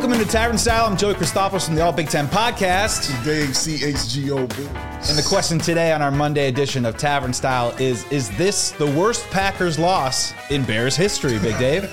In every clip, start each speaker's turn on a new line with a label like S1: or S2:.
S1: Welcome into Tavern Style. I'm Joey Christopoulos from the All Big Ten Podcast.
S2: Dave CHGO.
S1: And the question today on our Monday edition of Tavern Style is this the worst Packers loss in Bears history, Big Dave?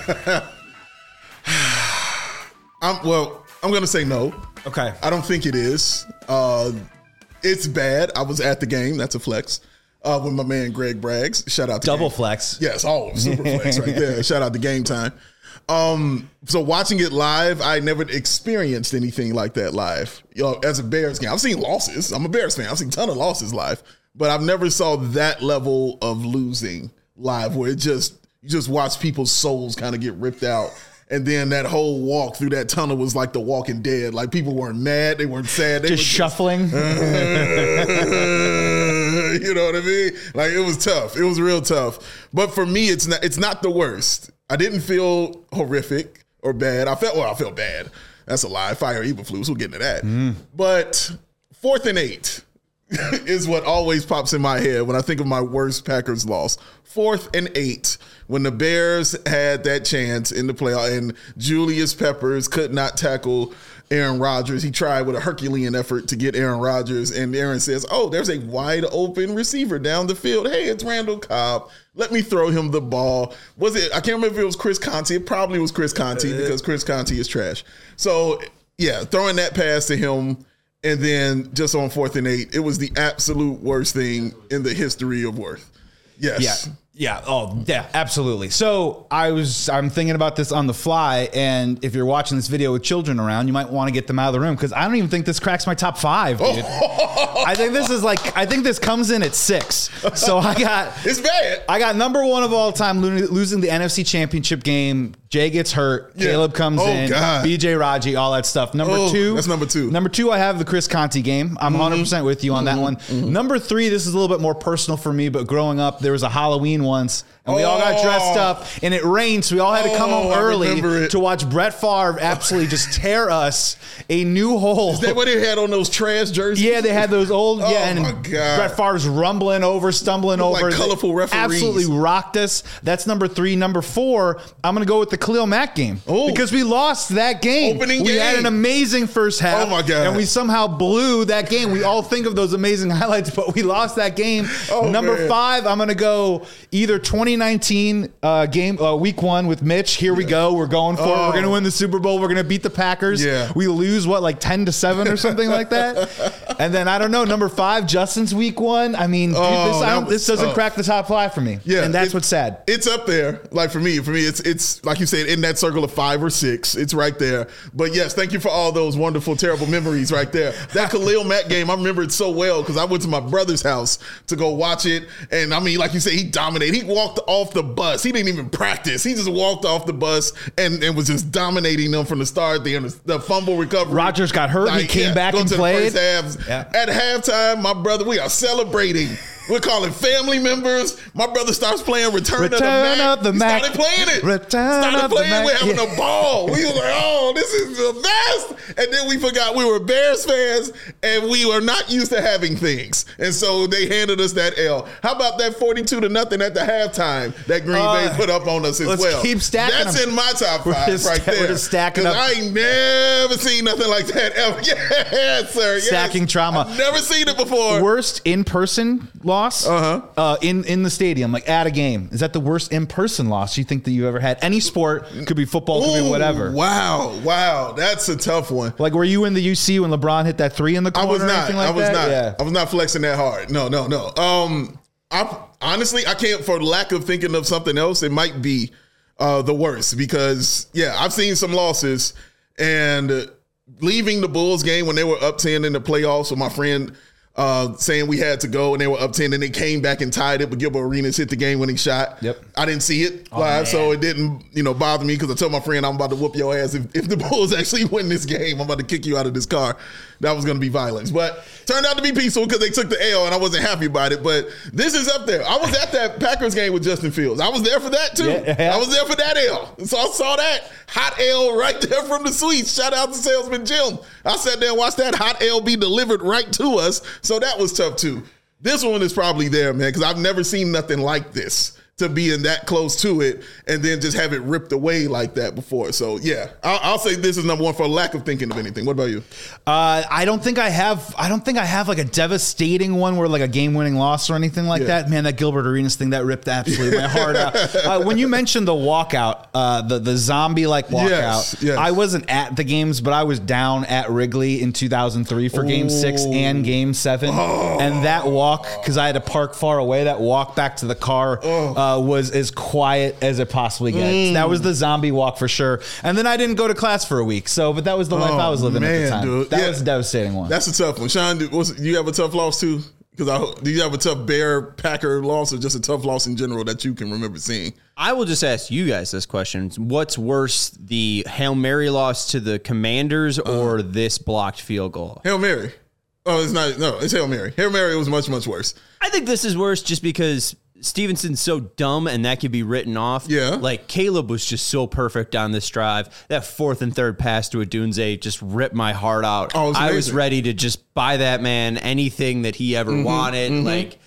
S2: I'm going to say no.
S1: Okay.
S2: I don't think it is. It's bad. I was at the game. That's a flex. With my man Greg Braggs. Shout out to
S1: Double
S2: game.
S1: flex.
S2: Yes, super flex right there. Shout out to Game Time. So watching it live, I never experienced anything like that live. As a Bears game, I've seen losses. I'm a Bears fan. I've seen a ton of losses live, but I've never saw that level of losing live where you just watch people's souls kind of get ripped out. And then that whole walk through that tunnel was like The Walking Dead. Like people weren't mad, they weren't sad, they
S1: just shuffling.
S2: You know what I mean? Like it was tough. It was real tough. But for me, it's not the worst. I didn't feel horrific or bad. I felt bad. That's a lie. Fire Eberflus. We'll get into that. But 4th and 8 is what always pops in my head when I think of my worst Packers loss. 4th and 8, when the Bears had that chance in the playoff and Julius Peppers could not tackle Aaron Rodgers. He tried with a Herculean effort to get Aaron Rodgers, and Aaron says, oh, there's a wide open receiver down the field. Hey, it's Randall Cobb. Let me throw him the ball. I can't remember if it was Chris Conte. It probably was Chris Conte because Chris Conte is trash. So, yeah, throwing that pass to him, and then just on 4th and 8, it was the absolute worst thing in the history of Worth. Yes.
S1: Yeah. Oh, yeah, absolutely. So I'm thinking about this on the fly, and if you're watching this video with children around, you might want to get them out of the room because I don't even think this cracks my top 5, dude. I think this comes in at 6. So
S2: it's bad.
S1: I got number 1 of all time losing the NFC Championship game. Jay gets hurt. Yeah. Caleb comes in. God. BJ Raji, all that stuff. Number 2.
S2: That's number 2.
S1: Number 2, I have the Chris Conte game. I'm 100% with you on that one. Number 3, this is a little bit more personal for me, but growing up, there was a Halloween once, and we all got dressed up, and it rained, so we all had to come home early to watch Brett Favre absolutely just tear us a new hole.
S2: Is that what they had on those trash jerseys?
S1: Yeah, they had those old, and
S2: my God.
S1: Brett Favre's stumbling over.
S2: Like colorful referees.
S1: Absolutely rocked us. That's number 3. Number 4, I'm going to go with the Khalil Mack game. Because we lost that game. We had an amazing first half.
S2: Oh, my God.
S1: And we somehow blew that game. We all think of those amazing highlights, but we lost that game. Number 5, I'm going to go either 2019 game, week 1 with Mitch. Here we go. We're going for it. We're going to win the Super Bowl. We're going to beat the Packers.
S2: Yeah.
S1: We lose, 10-7 or something like that? And then, I don't know, number 5, Justin's week 1. I mean, this doesn't crack the top 5 for me.
S2: Yeah.
S1: And that's what's sad.
S2: It's up there. Like for me, it's like you said, in that circle of 5 or 6. It's right there. But yes, thank you for all those wonderful, terrible memories right there. That Khalil Mack game, I remember it so well because I went to my brother's house to go watch it. And I mean, like you said, he dominated. He walked off the bus. He didn't even practice. He just walked off the bus and was just dominating them from the start. The fumble recovery.
S1: Rodgers got hurt. He came back and played.
S2: At halftime, my brother, we are celebrating. We're calling family members. My brother starts playing Return of the Mac. Started playing it. We're having a ball. We were like, oh, this is the best. And then we forgot we were Bears fans and we were not used to having things. And so they handed us that L. How about that 42-0 at the halftime that Green Bay put up on us as well?
S1: Let's keep stacking
S2: That's
S1: them.
S2: in my top 5 right there.
S1: We're just stacking up.
S2: I ain't never seen nothing like that ever. Yes, sir. Yes.
S1: Stacking trauma.
S2: I've never seen it before.
S1: Worst in-person loss in the stadium, like at a game. Is that the worst in-person loss you think that you ever had? Any sport, could be football, could be whatever.
S2: Wow. That's a tough one.
S1: Like, were you in the UC when LeBron hit that 3 in the corner?
S2: I was not.
S1: Or anything like that? Yeah.
S2: I was not flexing that hard. No. Honestly, I can't, for lack of thinking of something else, it might be the worst because, I've seen some losses and leaving the Bulls game when they were up 10 in the playoffs with my friend saying we had to go and they were up 10 and they came back and tied it, but Gilbert Arenas hit the game-winning shot.
S1: Yep.
S2: I didn't see it live, so it didn't bother me because I told my friend I'm about to whoop your ass. If the Bulls actually win this game, I'm about to kick you out of this car. That was going to be violence. But turned out to be peaceful because they took the L and I wasn't happy about it. But this is up there. I was at that Packers game with Justin Fields. I was there for that too. Yeah. I was there for that L. So I saw that hot L right there from the suites. Shout out to Salesman Jim. I sat there and watched that hot L be delivered right to us. So that was tough too. This one is probably there, man, because I've never seen nothing like this to being that close to it and then just have it ripped away like that before. So yeah, I'll say this is number one for lack of thinking of anything. What about you?
S1: I don't think I have like a devastating one where like a game-winning loss or anything like that. Man, that Gilbert Arenas thing, that ripped absolutely my heart out. When you mentioned the walkout, the zombie-like walkout, yes. I wasn't at the games, but I was down at Wrigley in 2003 for Game 6 and Game 7. And that walk, because I had to park far away, that walk back to the car was as quiet as it possibly gets. That was the zombie walk for sure. And then I didn't go to class for a week. But that was the life I was living at the time. Dude. That was a devastating one.
S2: That's a tough one. Sean, do you have a tough loss too? Because do you have a tough Bear-Packer loss or just a tough loss in general that you can remember seeing?
S3: I will just ask you guys this question. What's worse, the Hail Mary loss to the Commanders or this blocked field goal?
S2: Hail Mary. Oh, it's not. No, it's Hail Mary. Hail Mary was much, much worse.
S3: I think this is worse just because Stevenson's so dumb and that could be written off.
S2: Yeah.
S3: Like Caleb was just so perfect on this drive. That 4th and 3rd pass to Odunze just ripped my heart out.
S2: Oh,
S3: I was ready to just buy that man anything that he ever wanted. Like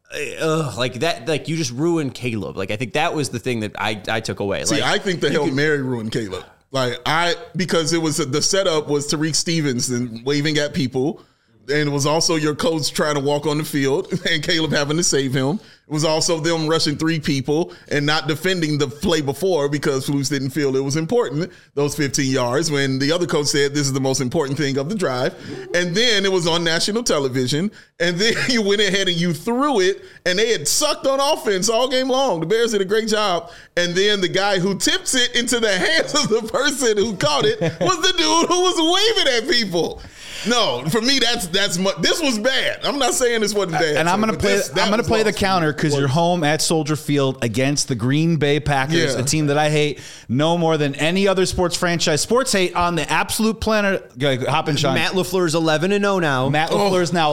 S3: that, like you just ruined Caleb. Like I think that was the thing that I took away.
S2: See, I think the Hail Mary ruined Caleb. Because it was the setup was Tariq Stevenson waving at people. And it was also your coach trying to walk on the field and Caleb having to save him. It was also them rushing 3 people and not defending the play before because Flus didn't feel it was important, those 15 yards, when the other coach said this is the most important thing of the drive. And then it was on national television. And then you went ahead and you threw it, and they had sucked on offense all game long. The Bears did a great job. And then the guy who tips it into the hands of the person who caught it was the dude who was waving at people. No, for me, this was bad. I'm not saying this wasn't bad.
S1: And I'm going to play the counter because you're home at Soldier Field against the Green Bay Packers, a team that I hate no more than any other sports franchise. Sports hate on the absolute planet. Hop in, Sean.
S3: Matt LaFleur's 11-0 now.
S1: Matt LaFleur's now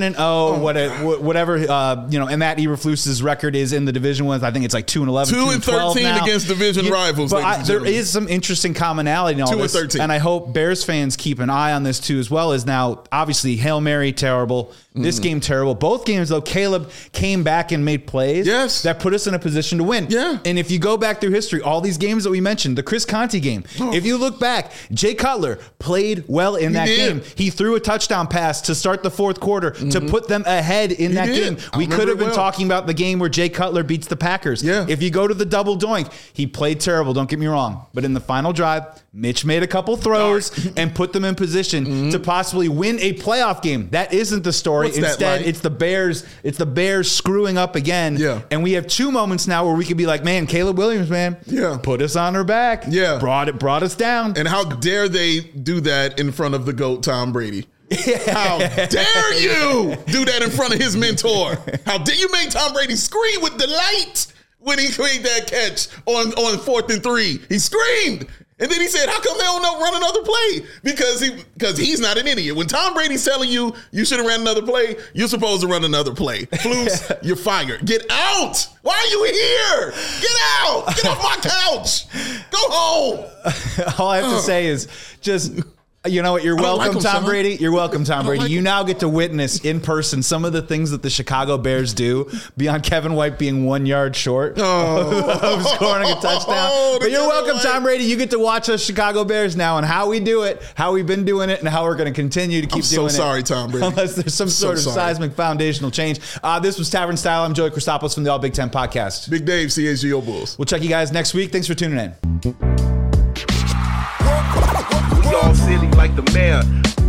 S1: 11-0. Whatever, and Matt Eberflus's record is in the Division I think it's like 2-11,
S2: 2-13 against division rivals.
S1: But there is some interesting commonality in all this.
S2: 2-13.
S1: And I hope Bears fans keep an eye on this too as well. Is now obviously Hail Mary terrible. This game terrible. Both games though, Caleb came back and made plays that put us in a position to win.
S2: Yeah.
S1: And if you go back through history, all these games that we mentioned, the Chris Conte game, if you look back, Jay Cutler played well in that game. He threw a touchdown pass to start the 4th quarter to put them ahead in that game. We could have been talking about the game where Jay Cutler beats the Packers.
S2: Yeah.
S1: If you go to the double doink, he played terrible, don't get me wrong. But in the final drive, Mitch made a couple throws and put them in position to possibly win a playoff game. That isn't the story. Instead, it's the Bears. It's the Bears screwing up again.
S2: Yeah.
S1: And we have 2 moments now where we could be like, man, Caleb Williams, man, put us on our back.
S2: Yeah.
S1: Brought us down.
S2: And how dare they do that in front of the GOAT, Tom Brady? How dare you do that in front of his mentor? How dare you make Tom Brady scream with delight when he made that catch on 4th and 3? He screamed. And then he said, how come they don't run another play? Because he's not an idiot. When Tom Brady's telling you should have ran another play, you're supposed to run another play. Flus, you're fired. Get out. Why are you here? Get out. Get off my couch. Go home.
S1: All I have to say is just... You know what? You're welcome, Tom Brady. You're welcome, Tom Brady. You now get to witness in person some of the things that the Chicago Bears do beyond Kevin White being 1 yard short of scoring a touchdown. But you're welcome, Tom Brady. You get to watch us Chicago Bears now and how we do it, how we've been doing it, and how we're going to continue to keep doing it.
S2: I'm so sorry, Tom Brady.
S1: Unless there's some sort of seismic foundational change. This was Tavern Style. I'm Joey Christopoulos from the All Big Ten Podcast.
S2: Big Dave, CHGO Bulls.
S1: We'll check you guys next week. Thanks for tuning in.
S4: All silly like the mayor.